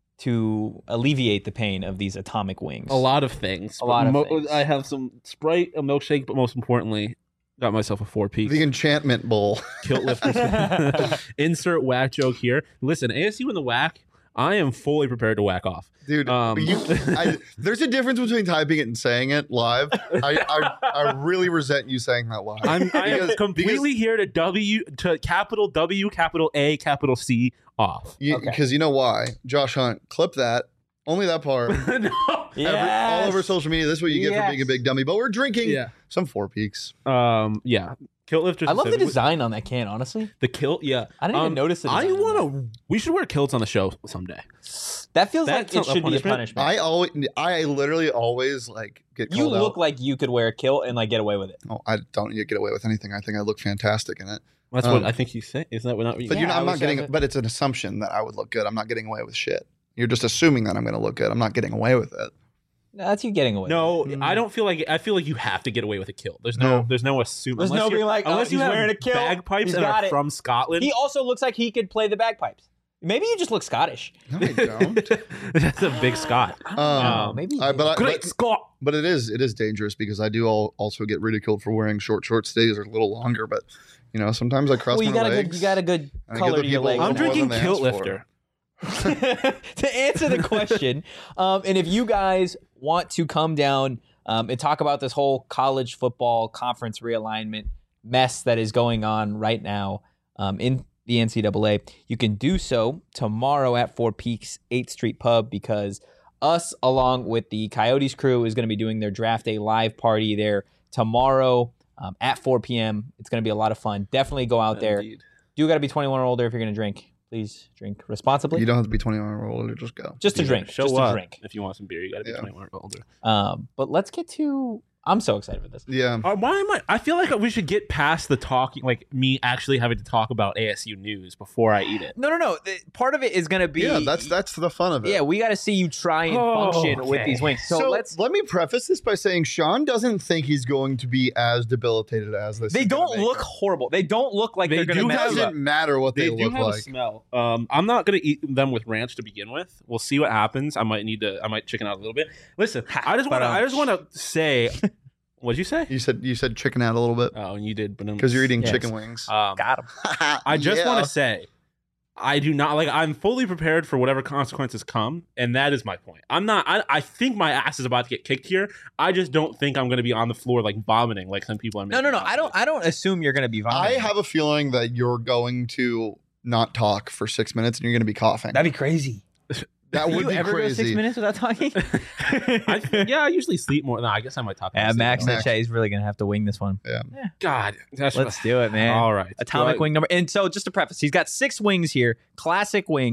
to alleviate the pain of these atomic wings? A lot of things. A lot of Mo- things. I have some Sprite, a milkshake, but most importantly, got myself a four piece. The enchantment bowl. Kilt lifters. Insert whack joke here. Listen, A S U in the whack. I am fully prepared to whack off. Dude, Um, you, I, there's a difference between typing it and saying it live. I, I, I really resent you saying that live. I'm I am Because- completely here to W to capital W, capital A, capital C off. You, Okay. Because you know why? Josh Hunt, clip that. Only that part. No. Every- all over Yes. social media. This is what you get for Yes. being a big dummy. But we're drinking Yeah. some Four Peaks. Um. Yeah. Kilt lifters. I love the specifically- design on that can. Honestly, The kilt. Yeah. I didn't even Um, notice it. I want to. We should wear kilts on the show someday. That feels That's like it a should be a punishment? punishment. I always, I literally always like get you called look out. like you could wear a kilt and like get away with it. Oh, I don't get away with anything. I think I look fantastic in it. That's Um, what I think you say. Isn't that what not? But Yeah, you're not, I I'm would not say getting. that- But it's an assumption that I would look good. I'm not getting away with shit. You're just assuming that I'm going to look good. I'm not getting away with it. No, that's you getting away. No, with it. I don't feel like. I feel like you have to get away with a kilt. There's no. No. There's no assuming. There's unless no you're- being like, oh, unless you he's have wearing a kilt, bagpipes he's and got are it. from Scotland. He also looks like he could play the bagpipes. Maybe you just look Scottish. No, I don't. That's a big Scott. I don't know. Um, Maybe. I- but I- Great but- Scott. But it is it is dangerous because I do all, also get ridiculed for wearing short shorts. Days are a little longer, but you know sometimes I cross well, you my got a legs. good. You got a good I get color the to your people legs. more I'm than drinking they kilt asked for. lifter. To answer the question, um, and if you guys want to come down um, and talk about this whole college football conference realignment mess that is going on right now um, in the N C double A, you can do so tomorrow at Four Peaks eighth Street Pub, because us, along with the Coyotes crew, is going to be doing their draft day live party there tomorrow um, at four p.m. It's going to be a lot of fun. Definitely go out there. Indeed. Do got to be twenty-one or older if you're going to drink. Please drink responsibly. You don't have to be twenty-one or older. Just go. Just to Yeah, drink. Show just up to drink. if you want some beer. You got to be Yeah. twenty-one or older. Um, but let's get to. I'm so excited for this. Yeah. Uh, why am I? I feel like we should get past the talking, like me actually having to talk about A S U news before I eat it. No, no, no. The- Part of it is going to be. Yeah, that's that's the fun of it. Yeah, we got to see you try and Oh, function with okay. these wings. So, So, let's. let me preface this by saying Sean doesn't think he's going to be as debilitated as this. They is gonna don't make look him. horrible. They don't look like They they're going do to It have mess a- up. doesn't matter what they, They do look have like. a smell. Um, I'm not gonna eat them with ranch to begin with. We'll see what happens. I might need to. I might chicken out a little bit. Listen, I just want to. I just want to say. What'd you say? You said you said chicken out a little bit Oh, and you did, but because you're eating Yes. chicken wings. Um, Got him. I just Yeah. want to say, I do not like. I'm fully prepared for whatever consequences come, and that is my point. I'm not. I, I think my ass is about to get kicked here. I just don't think I'm going to be on the floor like vomiting like some people are. No, no, no. I don't. I don't assume you're going to be I vomiting. have a feeling that you're going to not talk for six minutes and you're going to be coughing. That'd be crazy. That Can would you be ever go six crazy. minutes without talking? I, yeah, I usually sleep more. No, I guess I might talk. Yeah, about Max sleep. Max. said he's really going to have to wing this one. God, that's Let's do it, man. All right, Atomic Do I- wing number. And so, just to preface, he's got six wings here, classic wings.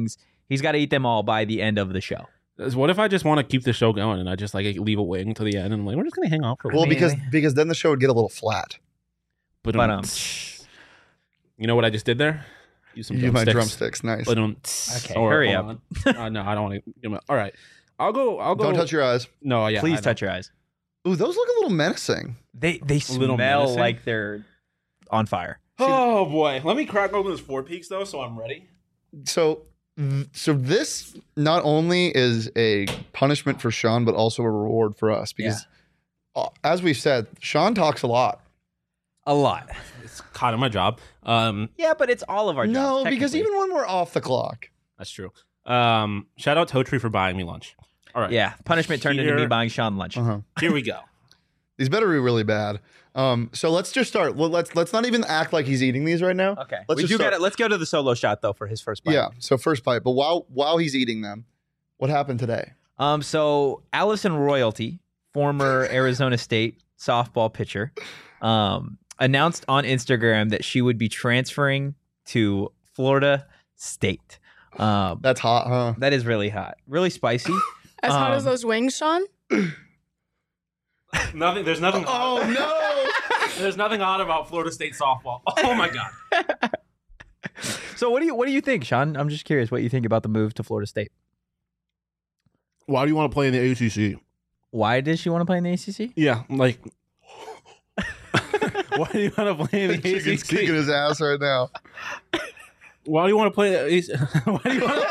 He's got to eat them all by the end of the show. What if I just want to keep the show going and I just like leave a wing to the end and I'm like, we're just gonna hang out for a Well, while. because because then the show would get a little flat. But, But, um, um, you know what I just did there? Use some You my drumsticks. drumsticks, nice. But, um, Okay, or- hurry hold up. on. uh, no, I don't want to. All right, I'll go. I'll go. Don't touch your eyes. No, yeah. Please I touch your eyes. Ooh, those look a little menacing. They they A little smell menacing? like they're on fire. Oh boy, let me crack open this Four Peaks though, so I'm ready. So, so this not only is a punishment for Sean, but also a reward for us because, uh, as we've said, Sean talks a lot. A lot. It's kind of my job. Um, Yeah, but it's all of our jobs. No, because technically. even when we're off the clock, that's true. Um, shout out Totri for buying me lunch. All right, yeah, punishment turned into me Here- buying Sean lunch. uh-huh. here we go. These better be really bad. Um, so let's just start. Well, let's let's not even act like he's eating these right now. Okay, Let's we just do start- got Let's go to the solo shot though for his first bite. Yeah. So first bite, but while while he's eating them, what happened today? Um. So Allison Royalty, former Arizona State softball pitcher, um, announced on Instagram that she would be transferring to Florida State. Um, That's hot, huh? that is really hot, really spicy. As hot as Um, those wings, Sean? Nothing. There's nothing. Oh no! There's nothing odd about Florida State softball. Oh my god. So what do you what do you think, Sean? I'm just curious what you think about the move to Florida State. Why do you want to play in the A C C? Why does she want to play in the A C C? Yeah, like. Why do you want to play in the A C Chicken's kicking C? his ass right now. Why do you want to play? The A C C? Why do you want?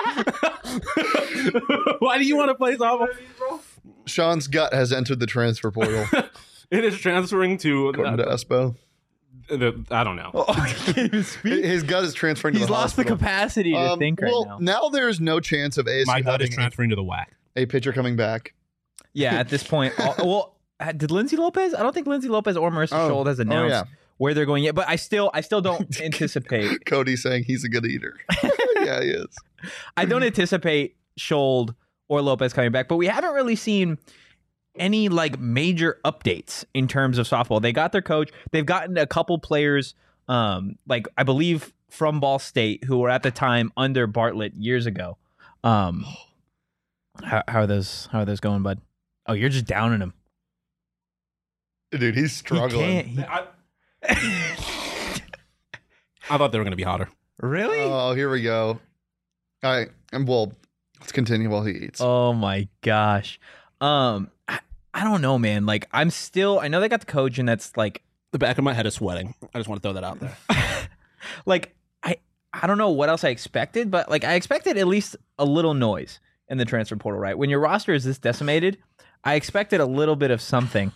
Why do you want to play softball? Sean's gut has entered the transfer portal. It is transferring to. According to Espo, the, I don't know. Oh, I can't even speak. his gut is transferring. to He's the lost the hospital. capacity to Um, think right well, now. there's no chance of A S U My gut is having transferring to the W A C. a pitcher coming back. Yeah, at this point, all, well, uh, did Lindsay Lopez? I don't think Lindsay Lopez or Marissa Oh. Scholl has Oh, announced yeah. where they're going yet. But I still, I still don't anticipate. Cody saying he's a good eater. Yeah, he is. I don't anticipate Scholl or Lopez coming back. But we haven't really seen any like major updates in terms of softball. They got their coach. They've gotten a couple players, um, like I believe from Ball State, who were at the time under Bartlett years ago. Um, how, how are those? How are those going, bud? Oh, you're just downing him. Dude, he's He struggling. can't. He, I, I thought they were going to be hotter. really? Oh, here we go. All right. And well, let's continue while he eats. Oh my gosh. Um, I, I don't know, man. Like, I'm still. I know they got the coach, and that's like, The back of my head is sweating. I just want to throw that out there. like I. I don't know what else I expected, but like I expected at least a little noise in the transfer portal, right? When your roster is this decimated, I expected a little bit of something.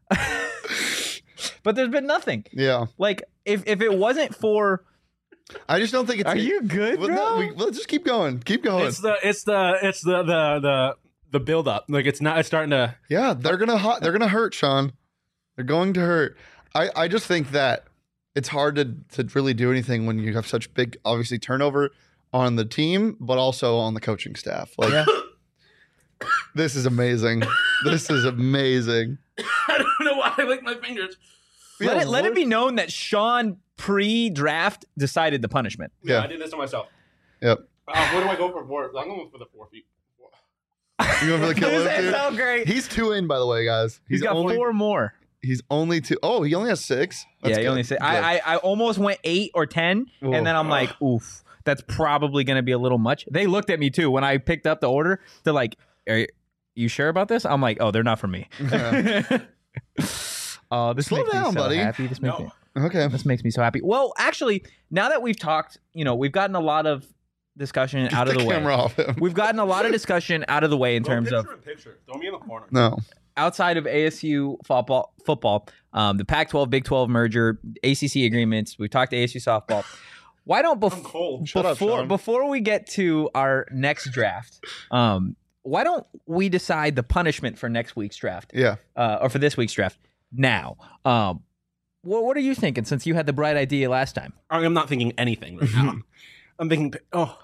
But there's been nothing. Yeah. Like if if it wasn't for, I just don't think it's. are you good, Well, bro? no, we, let's just keep going. Keep going. It's the it's the it's the the the the build up. Like it's not. It's starting to. Yeah, they're gonna hu- they're gonna hurt, Sean. They're going to hurt. I, I just think that it's hard to to really do anything when you have such big, obviously, turnover on the team, but also on the coaching staff. Like, Yeah. this is amazing. This is amazing. I don't know why I lick my fingers. let Yeah, it let it what- be known that Sean pre-draft decided the punishment. Yeah, Yeah. I did this to myself. Yep. Uh, what do I go for? Four? I'm going for the four feet. You going for the killer? Does that dude? sound great? He's two in, by the way, guys. He's got only, four more. He's only two. Oh, he only has six. That's yeah, he good. only said Good. I, I I almost went eight or ten, Whoa. and then I'm like, oof, that's probably gonna be a little much. They looked at me too when I picked up the order. They're like, "Are you sure about this?" I'm like, "Oh, they're not for me." Yeah. Oh, this Slow makes down, me so buddy. happy. This makes No. me Okay. this makes me so happy. Well, actually, now that we've talked, you know, we've gotten a lot of discussion out of Get the way. camera off him. We've gotten a lot of discussion out of the way in terms of picture in picture. Throw me in the corner. No. outside of A S U football, football, um, the Pac twelve, Big twelve merger, A C C agreements. We've talked to A S U softball. Why don't I'm bef- cold. Shut up, before Sean. before we get to our next draft, um, why don't we decide the punishment for next week's draft, Yeah. uh, or for this week's draft now? Um, what what are you thinking? Since you had the bright idea last time. I'm not thinking anything right now. I'm thinking. Oh,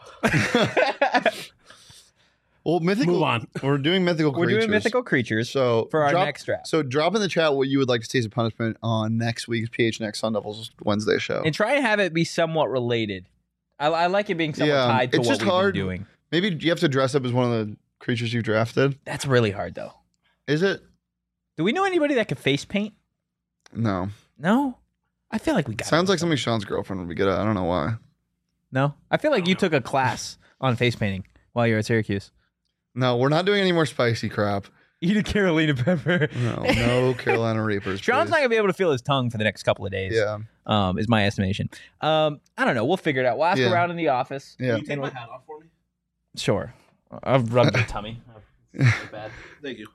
Well, mythical. move on. We're doing mythical We're creatures. doing mythical creatures So for our drop, next draft. So drop in the chat what you would like to see as a punishment on next week's P H N X Sun Devils Wednesday show. And try and have it be somewhat related. I, I like it being somewhat Yeah, tied to it's what just we've hard. been doing. Maybe you have to dress up as one of the creatures you drafted. That's really hard, though. Is it? Do we know anybody that could face paint? No. No? I feel like we got Sounds like something Sean's girlfriend would be good at. I don't know why. No? I feel like you took a class on face painting while you were at Syracuse. No, we're not doing any more spicy crap. Eat a Carolina pepper. No, no Carolina Reapers. Sean's please. not going to be able to feel his tongue for the next couple of days. Yeah. Um, is my estimation. Um, I don't know. We'll figure it out. We'll ask Yeah. around in the office. Yeah. Can you take my hat off for me? Sure. I've rubbed your tummy. It's not bad. Thank you.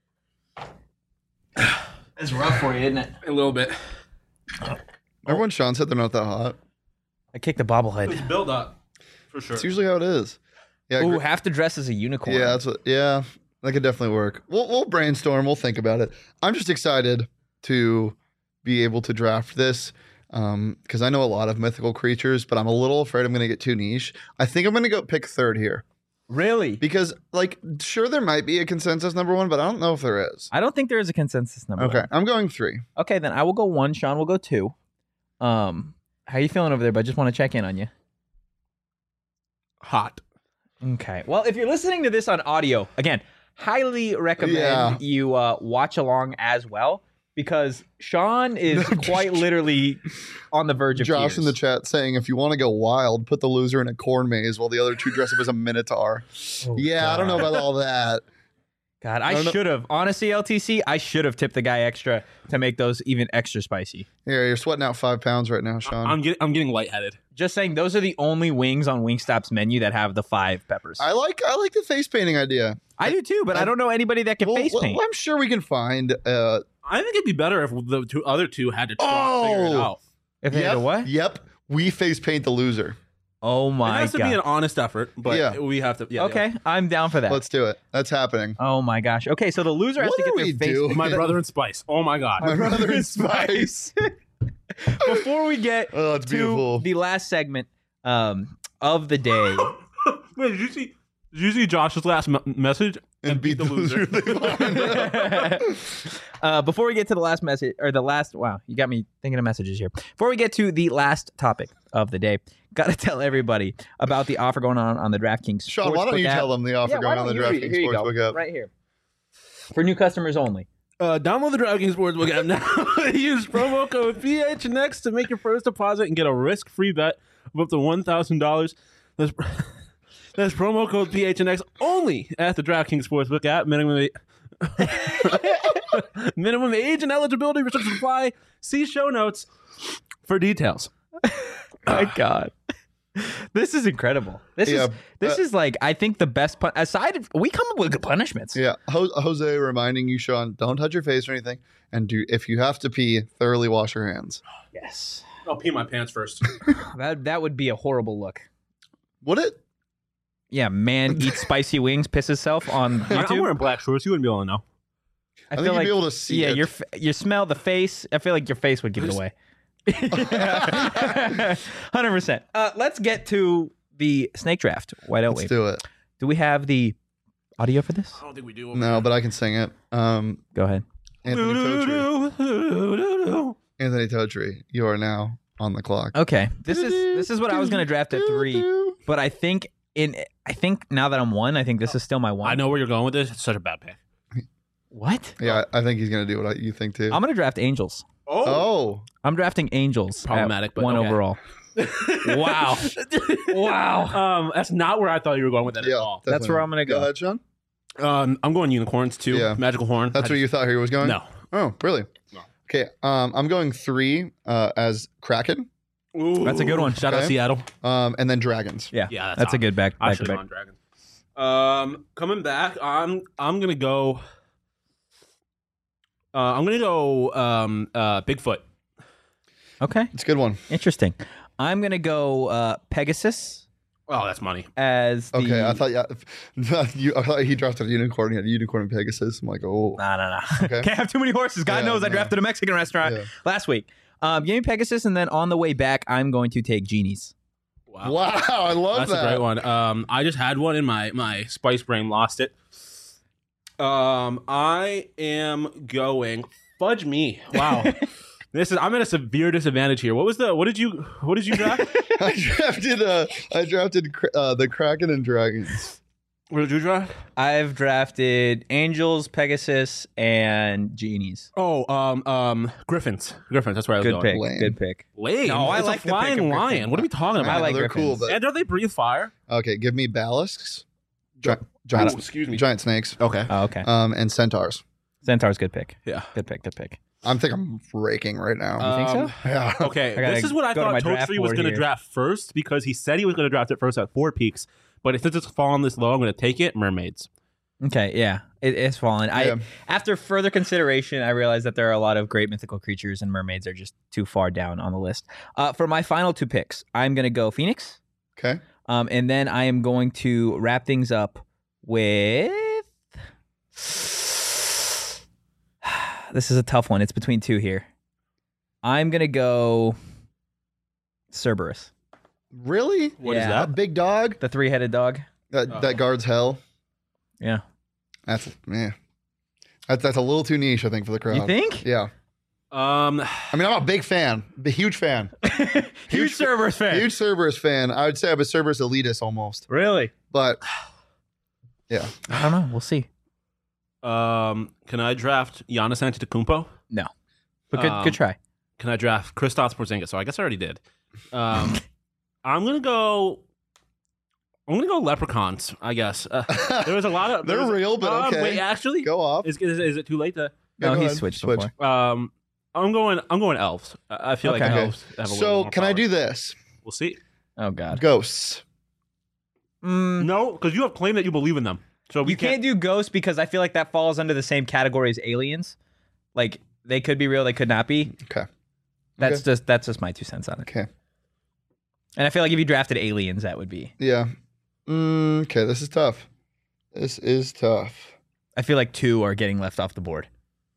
It's rough for you, isn't it? A little bit. Remember when Sean said they're not that hot? I kicked the bobblehead. It's built up for sure. It's usually how it is. Yeah. Ooh, gr- have to dress as a unicorn. yeah. That's what. Yeah. That could definitely work. We'll we'll brainstorm. We'll think about it. I'm just excited to be able to draft this because I know a lot of mythical creatures, but I'm a little afraid I'm going to get too niche. I think I'm going to go pick third here Really? because, like, sure there might be a consensus number one, but I don't know if there is. I don't think there is a consensus number. Okay, one. I'm going three. Okay, then I will go one. Sean will go two. Um, how you feeling over there? But I just want to check in on you. Hot. Okay. Well, if you're listening to this on audio, again, highly recommend Yeah. you uh, watch along as well because Sean is quite literally on the verge of Josh tears. in the chat saying if you want to go wild, put the loser in a corn maze while the other two dress up as a minotaur. Oh, yeah, I don't know God. about all that. God, I I don't know- should have. Honestly, L T C, I should have tipped the guy extra to make those even extra spicy. Here, you're sweating out five pounds right now, Sean. I'm getting I'm getting lightheaded. Just saying, those are the only wings on Wingstop's menu that have the five peppers. I like I like the face painting idea. I do too, but I, I- don't know anybody that can Well, face well, paint. I'm sure we can find. Uh, I think it'd be better if the two other two had to try to figure it Oh! out. If they had yep, a what? Yep, we face paint the loser. Oh It my has to god. be an honest effort, but Yeah. we have to. Yeah, okay, I'm down for that. Let's do it. That's happening. Oh my gosh. Okay, so the loser has What to get are their we face. doing? yeah. My brother in Spice. Oh my god. My brother in Spice. Before we get Oh, that's to beautiful. the last segment um, of the day, Wait, did you see? Did you see Josh's last m- message? And beat the loser. They find. uh, before we get to the last message or the last, wow, you got me thinking of messages here. Before we get to the last topic of the day, got to tell everybody about the offer going on on the DraftKings. Sean, why don't Sportsbook you app. tell them the offer Yeah, why going on the don't you- DraftKings here you go, Sportsbook app? right here for new customers only. Uh, download the DraftKings Sportsbook app now. Use promo code P H N X to make your first deposit and get a risk-free bet of up to one thousand dollars. That's, that's promo code P H N X only at the DraftKings Sportsbook app. Minimum a- minimum age and eligibility restrictions apply. See show notes for details. My God. This is incredible. This Yeah, is this uh, is like I think the best pun- aside of, we come up with good punishments. Yeah, Ho- Jose reminding you, Sean, don't touch your face or anything, and do if you have to pee, thoroughly wash your hands. Yes. I'll pee my pants first. That that would be a horrible look. Would it? Yeah, man eats spicy wings, piss himself on I'm YouTube. wearing black shorts. You wouldn't be able to know. I, think you'd be able to see yeah, it. your f- you smell the face. I feel like your face would give it away. one hundred percent. Uh, let's get to the snake draft. Why don't Let's we? do it. Do we have the audio for this? I don't think we do. over No, but I can sing it. Um, Go ahead. Anthony Totri. here. Anthony Totri, you are now on the clock. Okay, this is this is what I was going to draft at three, but I think in I think now that I'm one, I think this is still my one. I know where you're going with this. It's such a bad pick. What? Yeah, I think he's gonna do what I, you think too. I'm going to draft Angels. oh, I'm drafting Angels. at Problematic, but one okay. overall. Wow. Wow. Um, that's not where I thought you were going with that yeah, at all. That's definitely. where I'm gonna go. Go ahead, Sean. Um, I'm going unicorns too. Yeah. Magical horn. That's I where you just- thought he was going. No. Oh, really? No. Okay. Um, I'm going three uh, as Kraken, Ooh. That's a good one. Shout out Okay. Seattle. um, and then dragons. Yeah, Yeah, that's that's, a hot. good back. I back should to have back. gone dragon. Um, coming back, I'm I'm gonna go. Uh, I'm gonna go. Um, uh, Bigfoot. Okay, It's a good one. interesting. I'm gonna go uh, Pegasus Oh, that's money. as the. Okay, I thought yeah, you, I thought he drafted a unicorn. He had a unicorn and Pegasus. I'm like, oh, No, no, no. Okay. Can't have too many horses. God Yeah, knows I no. drafted a Mexican restaurant Yeah. last week. Um, give me Pegasus, and then on the way back, I'm going to take Genies. Wow, wow, I love that's that. a great one. Um, I just had one in my my spice brain, lost it. Um, I am going fudge me. Wow. This is I'm at a severe disadvantage here. What was the? What did you? What did you draft? I drafted uh, I drafted uh, the Kraken and Dragons. What did you draft? I've drafted Angels, Pegasus, and Genies. Oh, um, um, Griffins. Griffins. That's where I was Good going. pick. Lame. Good pick. Lame. No, I It's like a the pick flying of lion. Griffin. What are we talking I about? I like they're cool, Griffins. but And don't they breathe fire? okay, give me Balisks, gi- giant, Oh, excuse me. giant snakes, Okay. Oh, okay. um, and centaurs. Centaur's good pick. Yeah. Good pick. Good pick. I'm think I'm raking right now. You think Um, so? yeah. Okay, I gotta this is what I go to my thought draft Totri was board going to here. draft first because he said he was going to draft it first at four peaks. But since it's fallen this low, I'm going to take it. Mermaids. Okay, yeah, it, it's fallen. Yeah. I after further consideration, I realized that there are a lot of great mythical creatures, and mermaids are just too far down on the list. Uh, for my final two picks, I'm gonna go Phoenix, Okay. um, and then I am going to wrap things up with. This is a tough one. It's between two here. I'm gonna go Cerberus, Really? What is Yeah. that? A big dog the three-headed dog. that Oh. that guards hell. Yeah, That's man. That's that's a little too niche, I think, for the crowd. you think? Yeah. Um, I mean, I'm a big fan, a huge fan, Huge Cerberus fan. huge Cerberus fan. I would say I'm a Cerberus elitist almost, Really? but yeah. I don't know. We'll see. um, can I draft Giannis Antetokounmpo? But good, Um, good try. Can I draft Kristaps Porzingis? So I guess I already did. Um, I'm gonna go. I'm gonna go leprechauns. I guess uh, there was a lot of. there They're was- real, but uh, okay. Wait, actually, Go off. is, is is it too late to? Yeah, No, go he's ahead. switched Switch. before. Um, I'm going. I'm going elves. I I feel Okay. like Okay. elves have a little So more can I power. do this? We'll see. Oh God. Ghosts. Mm, No, because you have claimed that you believe in them. So we you can't do ghosts because I feel like that falls under the same category as aliens. Like they could be real, they could not be. Okay. That's Okay. just that's just my two cents on it. Okay. And I feel like if you drafted aliens, that would be. Yeah. Mm, okay. This is tough. This is tough. I feel like two are getting left off the board.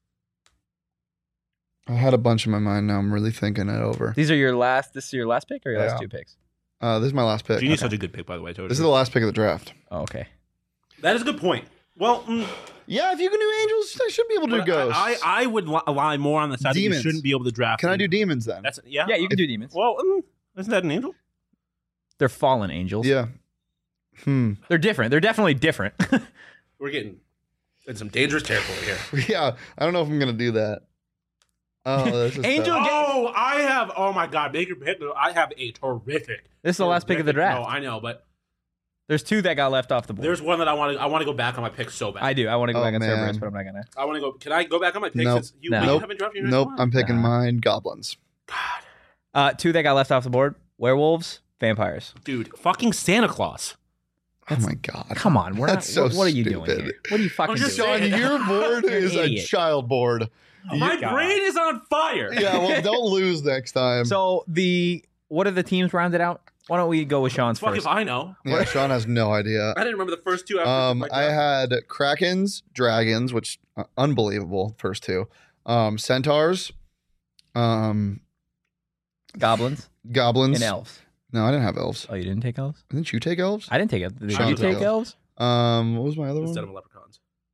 I had a bunch in my mind. Now I'm really thinking it over. These are your last. This is your last pick or your Yeah. last two picks? Uh, this is my last pick. Genie's Okay. such a good pick, by the way. Totally. This is the last pick of the draft. Oh, okay. that is a good point. Well, mm, Yeah, if you can do angels, I should be able to do but ghosts. I, I I would li- lie more on the side Demons. that you shouldn't be able to draft. can I them. do demons then? That's yeah. Yeah, you can do demons. Well, mm, isn't that an angel? They're fallen angels. Yeah. Hmm. They're different. They're definitely different. We're getting in some dangerous territory here. Yeah. I don't know if I'm gonna do that. Oh, this is Angel- tough. Oh, I have. Oh my God, Baker Pittman. I have a terrific. This is the last pick of the terrific- draft. No, I know, but There's two that got left off the board. there's one that I want to. I want to go back on my pick so bad. I do. I want to go Oh, back on man. Cerberus, but I'm not gonna. I want to go. Can I go back on my pick? Nope. Since you, No. wait, you Nope. haven't dropped your next Nope. one? I'm picking Nah. mine. Goblins. God, Uh, two that got left off the board: werewolves, vampires. dude, fucking Santa Claus. Oh my god. Come on, we're not. That's so what, what are you doing stupid. here? What are you fucking I'm just doing? saying. Sean, your board You're an is a idiot. child board. My God. brain is on fire. Yeah, well, don't lose next time. So the what are the teams rounded out? Why don't we go with Sean's Fuck first? if I know. yeah, Sean has no idea. I didn't remember the first two. After Um, my I draft. had Krakens, Dragons, which uh, unbelievable first two. Um, Centaurs, um, Goblins Goblins, and elves. No, I didn't have elves. Oh, you didn't take elves? Didn't you take elves? I didn't take elves. Did Sean you took take elves. elves? Um, what was my other instead one? of leprechauns.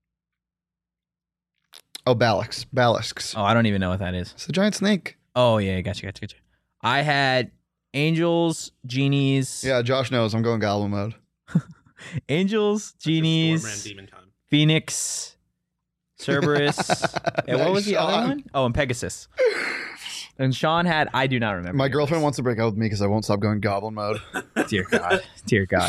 Oh, Balax, Balisks. Oh, I don't even know what that is. It's the giant snake. Oh yeah, gotcha, gotcha, gotcha. I had angels, genies. Yeah, Josh knows. I'm going Goblin mode. Angels, Storm ran genies, demon time. Phoenix, Cerberus. And what was the other Sean. one? Oh, and Pegasus. And Sean had. I do not remember. My yours. girlfriend wants to break up with me because I won't stop going Goblin mode. Dear God. Dear God.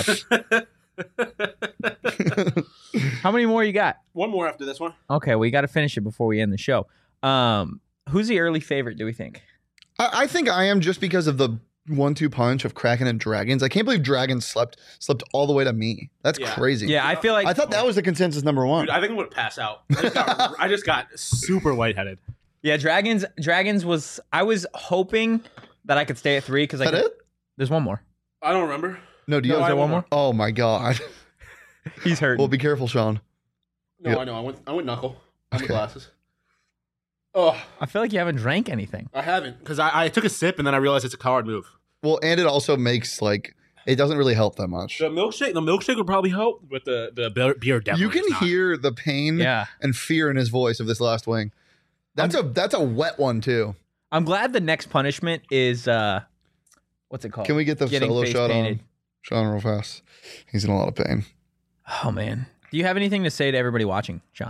How many more you got? One more after this one. Okay, we got to finish it before we end the show. Um, who's the early favorite? Do we think? I, I think I am just because of the one-two punch of Kraken and Dragons. I can't believe Dragons slept slept all the way to me. That's Yeah. crazy. Yeah, I feel like I thought that was the consensus number one. Dude, I think I'm gonna pass out. I just got, I just got super lightheaded. Yeah, Dragons. Dragons was. I was hoping that I could stay at three because I. Is that could, it? There's one more. I don't remember. No, do you No, have is there one more? Oh my god. He's hurt. Well, be careful, Sean. No, Yep. I know. I went. I went knuckle. I went Okay. glasses. Oh, I feel like you haven't drank anything. I haven't because I, I took a sip and then I realized it's a coward move. Well, and it also makes like it doesn't really help that much. The milkshake, the milkshake would probably help, but the the beer, beer definitely. You can does not. hear the pain Yeah. and fear in his voice of this last wing. That's a that's a wet one too. I'm glad the next punishment is uh, what's it called? Can we get the Getting solo face shot painted. on Sean real fast? He's in a lot of pain. Oh man, do you have anything to say to everybody watching, Sean?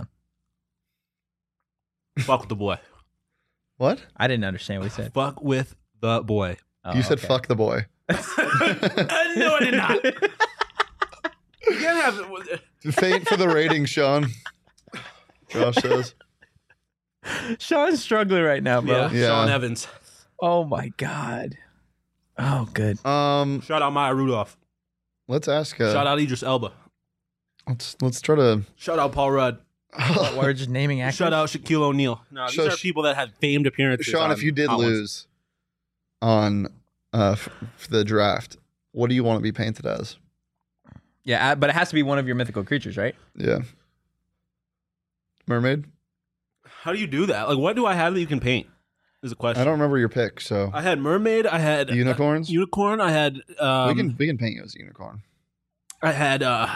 Fuck with the boy. What? I didn't understand what he said. Fuck with the boy. Oh, You said okay. fuck the boy. no, I did not. You can't have. Faint for the rating, Sean. Josh says. Sean's struggling right now, bro. Yeah, Yeah. Sean Evans. Oh my god. Oh, good. Um, Shout out Maya Rudolph. let's ask. Uh, Shout out Idris Elba. Let's let's try to. Shout out Paul Rudd. We're just naming actors. Shout out Shaquille O'Neal. No, these So are sh- people that had famed appearances. Sean, on if you did Hot Ones. lose on uh f- f- the draft, what do you want to be painted as? Yeah, uh, but it has to be one of your mythical creatures, right? Yeah. Mermaid? How do you do that? Like, what do I have that you can paint? Is a question. I don't remember your pick, so I had mermaid. I had unicorns. uh, unicorn. I had. Um, we can we can paint you as a unicorn. I had. uh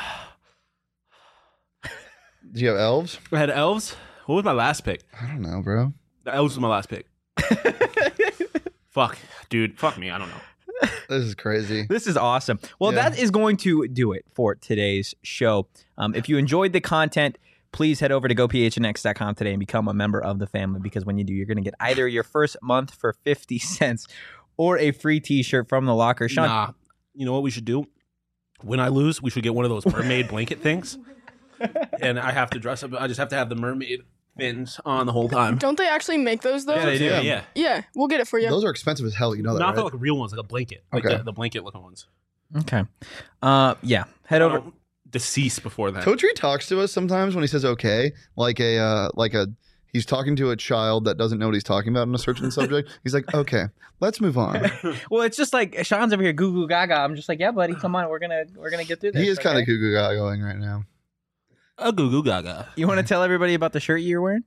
Do you have elves? I had elves. What was my last pick? I don't know, bro. The elves was my last pick. Fuck, dude. Fuck me. I don't know. This is crazy. This is awesome. Well, Yeah. that is going to do it for today's show. Um, if you enjoyed the content, please head over to go p h n x dot com today and become a member of the family, because when you do, you're going to get either your first month for fifty cents or a free t-shirt from the locker. Sean, Nah. You know what we should do? When I lose, we should get one of those mermaid blanket things, and I have to dress up. I just have to have the mermaid fins on the whole time. Don't they actually make those though? Yeah, they do. Yeah. Yeah. Yeah, we'll get it for you. Those are expensive as hell. You know that, Not right? like real ones, like a blanket, like Okay. the, the blanket looking ones. okay. Uh, yeah, head over. Don't Decease before that. Totri talks to us sometimes when he says okay, like a uh, like a he's talking to a child that doesn't know what he's talking about in a certain subject. He's like, okay, let's move on. Well, it's just like Sean's over here goo goo gaga. I'm just like, yeah, buddy, come on, we're gonna we're gonna get through this. He is kind of okay? goo goo gaga going right now. A goo goo gaga. You want to tell everybody about the shirt you're wearing?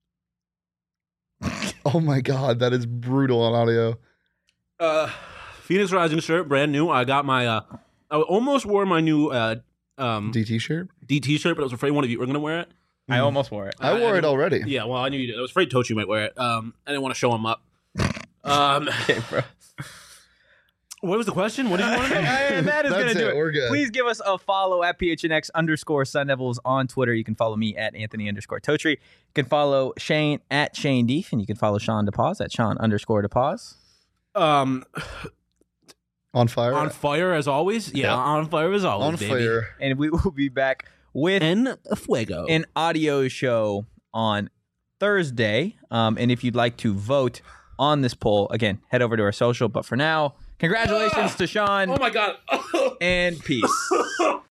Oh my god, that is brutal on audio. Uh, Phoenix Rising shirt, brand new. I got my. Uh, I almost wore my new uh, um, D T shirt. D T shirt, but I was afraid one of you were gonna wear it. I almost wore it. I wore it already. Yeah, well, I knew you did. I was afraid Tochi might wear it. Um, I didn't want to show him up. Um, Okay, bro. what was the question? What did you want to know? That is That's gonna do it. it. We're good. Please give us a follow at P H N X underscore Sun Devils on Twitter. You can follow me at Anthony underscore Totri. You can follow Shane at Shane Deef, and you can follow Sean DePause at Sean underscore DePause. Um, On fire. on fire as always. Yeah, Yep. on fire as always. On baby. fire. And we will be back with En fuego. an audio show on Thursday. Um, and if you'd like to vote on this poll, again, head over to our social. But for now, congratulations to Sean oh my god. and peace.